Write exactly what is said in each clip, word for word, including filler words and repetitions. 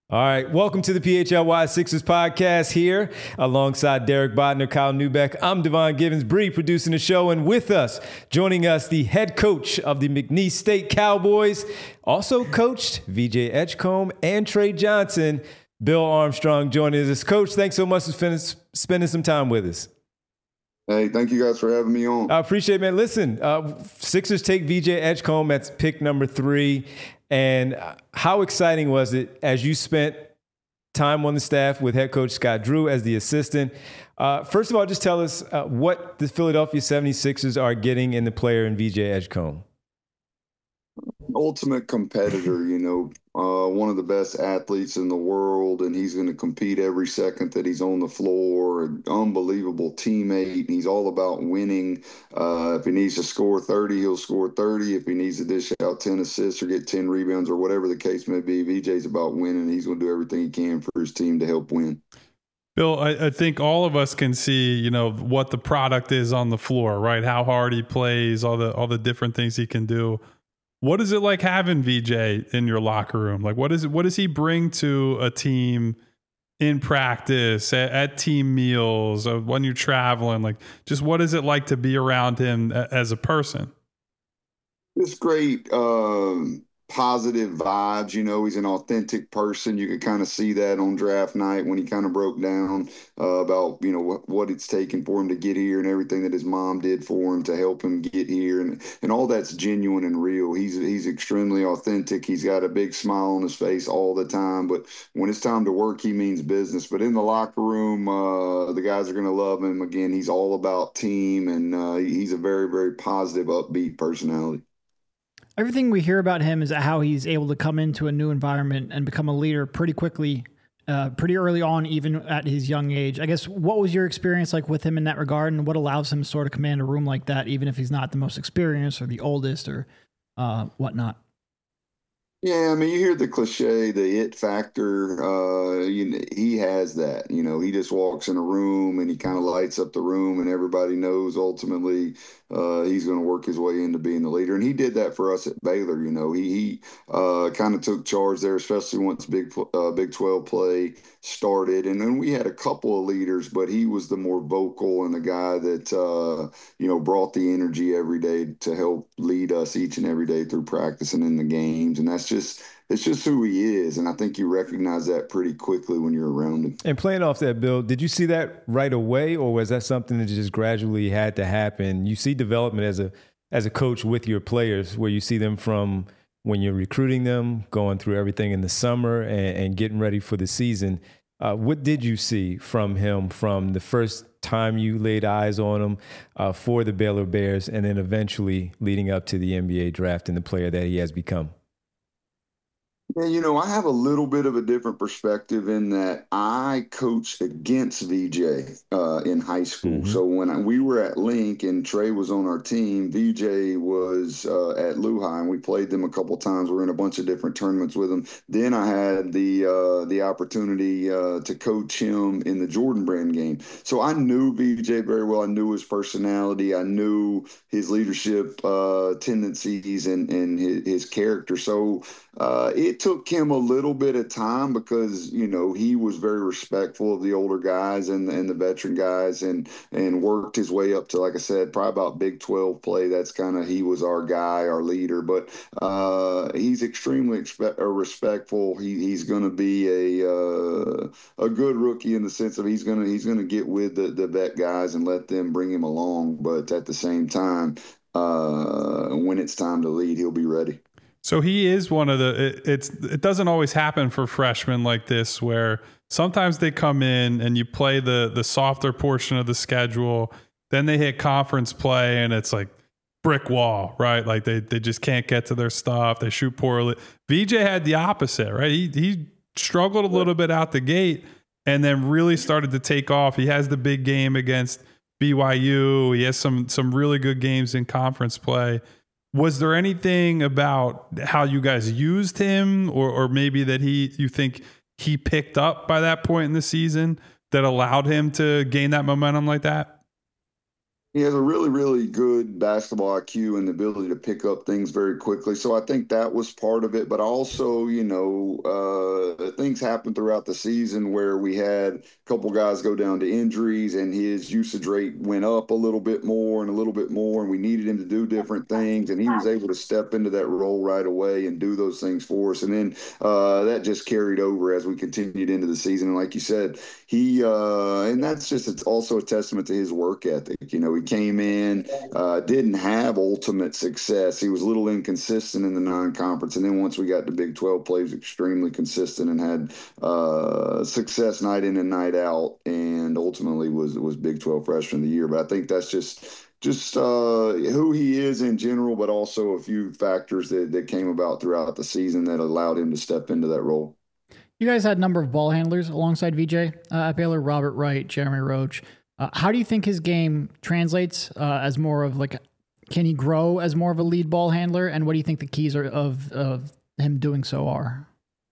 All right, welcome to the P H L Y Sixers podcast here alongside Derek Bodner, Kyle Newbeck. I'm Devon Givens, Bree producing the show, and with us, joining us, the head coach of the McNeese State Cowboys, also coached V J Edgecombe and Trey Johnson, Bill Armstrong joining us. Coach, thanks so much for spending some time with us. Hey, thank you guys for having me on. I appreciate it, man. Listen, uh, Sixers take V J Edgecombe at pick number three. And how exciting was it as you spent time on the staff with head coach Scott Drew as the assistant? Uh, first of all, just tell us uh, what the Philadelphia seventy-sixers are getting in the player in V J Edgecombe. Ultimate competitor, you know, uh, one of the best athletes in the world, and he's going to compete every second that he's on the floor. An unbelievable teammate. He's all about winning. Uh, if he needs to score thirty, he'll score thirty. If he needs to dish out ten assists or get ten rebounds or whatever the case may be, V J's about winning. He's going to do everything he can for his team to help win. Bill, I, I think all of us can see, you know, what the product is on the floor, right? How hard he plays, all the all the different things he can do. What is it like having V J in your locker room? Like, what is it? What does he bring to a team in practice, at, at team meals, uh, when you're traveling? Like, just what is it like to be around him a, as a person? It's great. Um, positive vibes. You know, he's an authentic person. You could kind of see that on draft night when he kind of broke down uh, about, you know, what, what it's taken for him to get here and everything that his mom did for him to help him get here. And, and all that's genuine and real. He's, he's extremely authentic. He's got a big smile on his face all the time. But when it's time to work, he means business. But in the locker room, uh, the guys are going to love him. Again, he's all about team, and uh, he's a very, very positive, upbeat personality. Everything we hear about him is how he's able to come into a new environment and become a leader pretty quickly, uh, pretty early on, even at his young age. I guess, what was your experience like with him in that regard, and what allows him to sort of command a room like that, even if he's not the most experienced or the oldest or uh, whatnot? Yeah, I mean, you hear the cliche, the it factor. Uh, you know, he has that. You know, he just walks in a room and he kind of lights up the room, and everybody knows ultimately uh, he's going to work his way into being the leader. And he did that for us at Baylor. You know, he, he uh, kind of took charge there, especially once Big uh, Big twelve play started. And then we had a couple of leaders, but he was the more vocal and the guy that uh, you know brought the energy every day to help lead us each and every day through practice and in the games. And that's just it's just who he is, and I think you recognize that pretty quickly when you're around him. And playing off that, Bill, did you see that right away, or was that something that just gradually had to happen? You see development as a as a coach with your players, where you see them from when you're recruiting them, going through everything in the summer and, and getting ready for the season. Uh, what did you see from him from the first time you laid eyes on him uh, for the Baylor Bears, and then eventually leading up to the N B A draft and the player that he has become? Yeah, you know, I have a little bit of a different perspective in that I coached against V J uh, in high school. Mm-hmm. So when I, we were at Link and Trey was on our team, V J was uh, at Lehigh, and we played them a couple times. We were in a bunch of different tournaments with them. Then I had the uh, the opportunity uh, to coach him in the Jordan Brand game. So I knew V J very well. I knew his personality. I knew his leadership uh, tendencies and, and his, his character. So uh, it took him a little bit of time because, you know, he was very respectful of the older guys and, and the veteran guys, and and worked his way up to, like I said, probably about Big twelve play. That's kind of, he was our guy, our leader. But uh, he's extremely expe- uh, respectful. He, he's going to be a uh, a good rookie in the sense of he's going to he's going to get with the, the vet guys and let them bring him along. But at the same time, uh, when it's time to lead, he'll be ready. So he is one of the, it, it's, it doesn't always happen for freshmen like this, where sometimes they come in and you play the, the softer portion of the schedule, then they hit conference play and it's like brick wall, right? Like they, they just can't get to their stuff. They shoot poorly. V J had the opposite, right? He, he struggled a little bit out the gate and then really started to take off. He has the big game against B Y U. He has some, some really good games in conference play. Was there anything about how you guys used him, or or maybe that he you think he picked up by that point in the season that allowed him to gain that momentum like that? He has a really, really good basketball I Q and the ability to pick up things very quickly. So I think that was part of it. But also, you know, uh, things happened throughout the season where we had a couple guys go down to injuries and his usage rate went up a little bit more and a little bit more. And we needed him to do different things. And he was able to step into that role right away and do those things for us. And then uh, that just carried over as we continued into the season. And like you said, he, uh, and that's just, it's also a testament to his work ethic. You know, he came in, uh, didn't have ultimate success. He was a little inconsistent in the non-conference, and then once we got to Big twelve, play, he was extremely consistent and had uh, success night in and night out, and ultimately was was Big twelve Freshman of the Year. But I think that's just just uh, who he is in general, but also a few factors that, that came about throughout the season that allowed him to step into that role. You guys had a number of ball handlers alongside V J uh, at Baylor, Robert Wright, Jeremy Roach. Uh, how do you think his game translates uh, as more of like, can he grow as more of a lead ball handler? And what do you think the keys are of, of him doing so are?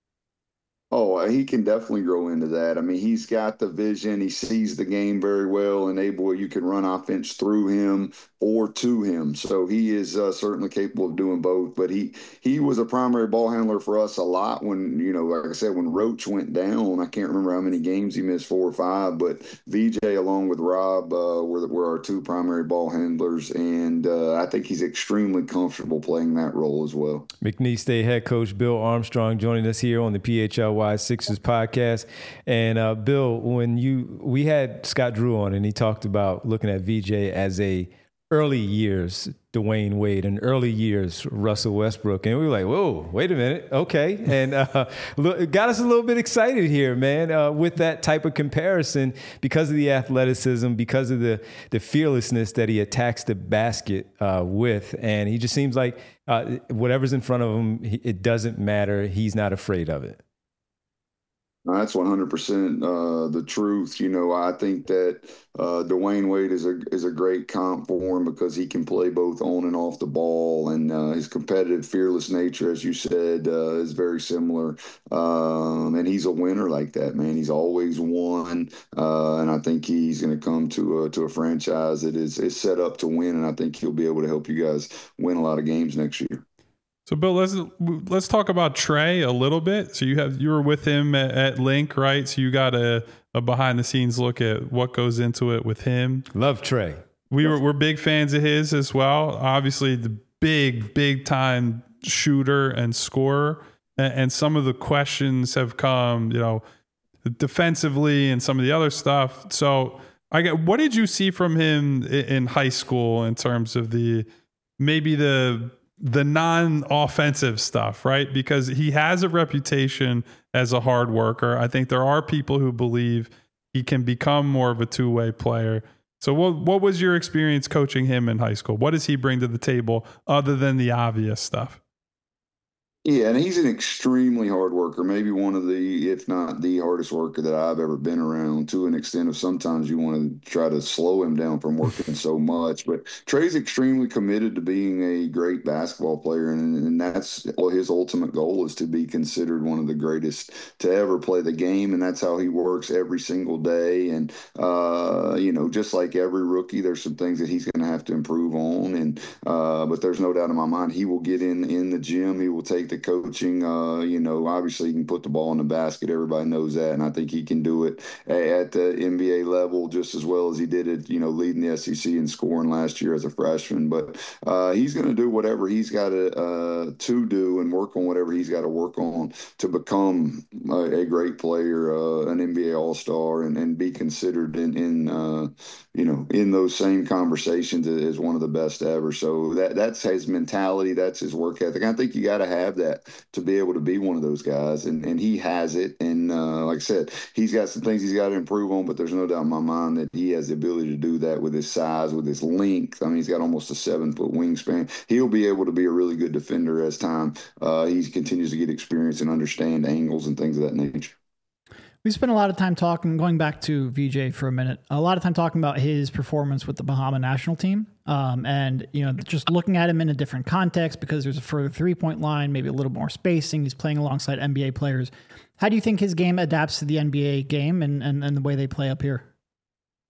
Oh, he can definitely grow into that. I mean, he's got the vision. He sees the game very well, and able you can run offense through him or to him. So he is uh, certainly capable of doing both. But he he was a primary ball handler for us a lot when, you know, like I said, when Roach went down, I can't remember how many games he missed, four or five. But V J, along with Rob, uh, were, were our two primary ball handlers. And uh, I think he's extremely comfortable playing that role as well. McNeese State head coach Bill Armstrong joining us here on the P H L Y Sixers podcast. And uh, Bill, when you we had Scott Drew on, and he talked about looking at V J as a early years Dwayne Wade and early years Russell Westbrook, and we were like, whoa, wait a minute, okay, and uh, it got us a little bit excited here, man, uh, with that type of comparison because of the athleticism, because of the the fearlessness that he attacks the basket uh, with, and he just seems like uh, whatever's in front of him, it doesn't matter. He's not afraid of it. That's one hundred percent uh, the truth. You know, I think that uh, Dwayne Wade is a is a great comp for him because he can play both on and off the ball, and uh, his competitive, fearless nature, as you said, uh, is very similar. Um, and he's a winner like that, man. He's always won, uh, and I think he's going to come to a to a franchise that is is set up to win, and I think he'll be able to help you guys win a lot of games next year. So, Bill, let's let's talk about Trey a little bit. So you have you were with him at, at Link, right? So you got a, a behind the scenes look at what goes into it with him. Love Trey. We were we're big fans of his as well. Obviously, the big big time shooter and scorer. And, and some of the questions have come, you know, defensively and some of the other stuff. So, I get what did you see from him in, in high school in terms of the maybe the the non-offensive stuff, right? Because he has a reputation as a hard worker. I think there are people who believe he can become more of a two-way player. So what what was your experience coaching him in high school? What does he bring to the table other than the obvious stuff? Yeah, and he's an extremely hard worker, maybe one of the, if not the hardest worker that I've ever been around, to an extent of sometimes you want to try to slow him down from working so much. But Trey's extremely committed to being a great basketball player, and, and that's well, his ultimate goal is to be considered one of the greatest to ever play the game, and that's how he works every single day. And, uh, you know, just like every rookie, there's some things that he's going to have to improve on, and uh, but there's no doubt in my mind he will get in, in the gym, he will take the coaching. Uh, you know, obviously he can put the ball in the basket. Everybody knows that, and I think he can do it at the N B A level just as well as he did it. You know, leading the S E C in scoring last year as a freshman. But uh, he's going to do whatever he's got to uh, to do and work on whatever he's got to work on to become a, a great player, uh, an N B A All-Star, and, and be considered in in uh, you know in those same conversations as one of the best ever. So that that's his mentality. That's his work ethic. I think you got to have that to be able to be one of those guys, and, and he has it. And uh, like I said, he's got some things he's got to improve on, but there's no doubt in my mind that he has the ability to do that with his size, with his length. I mean, he's got almost a seven-foot wingspan. He'll be able to be a really good defender as time uh, he continues to get experience and understand angles and things of that nature. We spent a lot of time talking, going back to V J for a minute, a lot of time talking about his performance with the Bahama national team. Um, and, you know, just looking at him in a different context because there's a further three-point line, maybe a little more spacing. He's playing alongside N B A players. How do you think his game adapts to the N B A game and, and, and the way they play up here?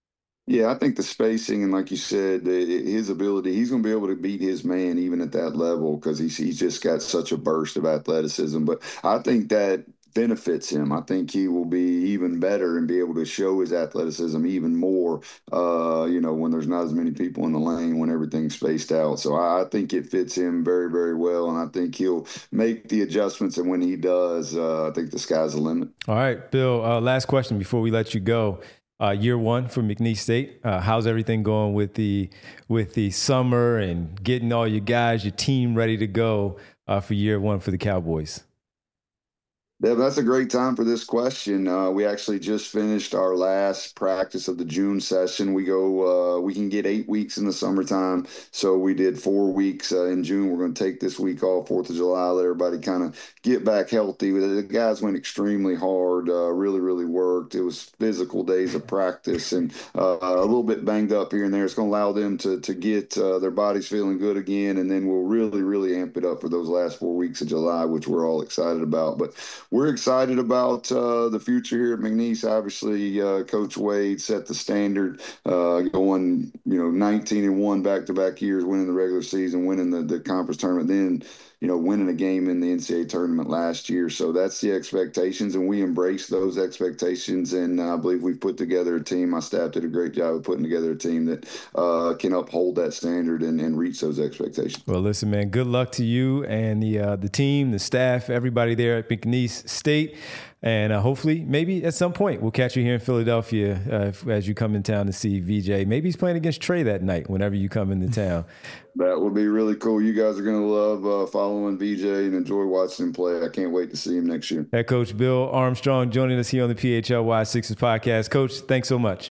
Yeah, I think the spacing and, like you said, the, his ability, he's going to be able to beat his man even at that level because he's, he's just got such a burst of athleticism. But I think that benefits him. I think he will be even better and be able to show his athleticism even more, uh, you know, when there's not as many people in the lane, when everything's spaced out. So I, I think it fits him very, very well. And I think he'll make the adjustments. And when he does, uh, I think the sky's the limit. All right, Bill, uh, last question before we let you go. Uh, year one for McNeese State. Uh, how's everything going with the with the summer and getting all your guys, your team ready to go uh, for year one for the Cowboys? Yeah, that's a great time for this question. Uh, we actually just finished our last practice of the June session. We go, uh, we can get eight weeks in the summertime. So we did four weeks uh, in June. We're going to take this week off, fourth of July, let everybody kind of get back healthy. The guys went extremely hard, uh, really, really worked. It was physical days of practice and uh, a little bit banged up here and there. It's going to allow them to, to get uh, their bodies feeling good again. And then we'll really, really amp it up for those last four weeks of July, which we're all excited about. But we're excited about uh, the future here at McNeese. Obviously, uh, Coach Wade set the standard, uh, going you know nineteen and one back-to-back years, winning the regular season, winning the, the conference tournament, then you know winning a game in the N C double A tournament last year. So that's the expectations, and we embrace those expectations. And uh, I believe we've put together a team. My staff did a great job of putting together a team that uh, can uphold that standard and, and reach those expectations. Well, listen, man, good luck to you and the uh, the team, the staff, everybody there at McNeese State. And uh, hopefully, maybe at some point, we'll catch you here in Philadelphia uh, as you come in town to see V J. Maybe he's playing against Trey that night whenever you come into town. That would be really cool. You guys are going to love uh, following V J and enjoy watching him play. I can't wait to see him next year. Head coach Bill Armstrong joining us here on the P H L Y Sixers podcast. Coach, thanks so much.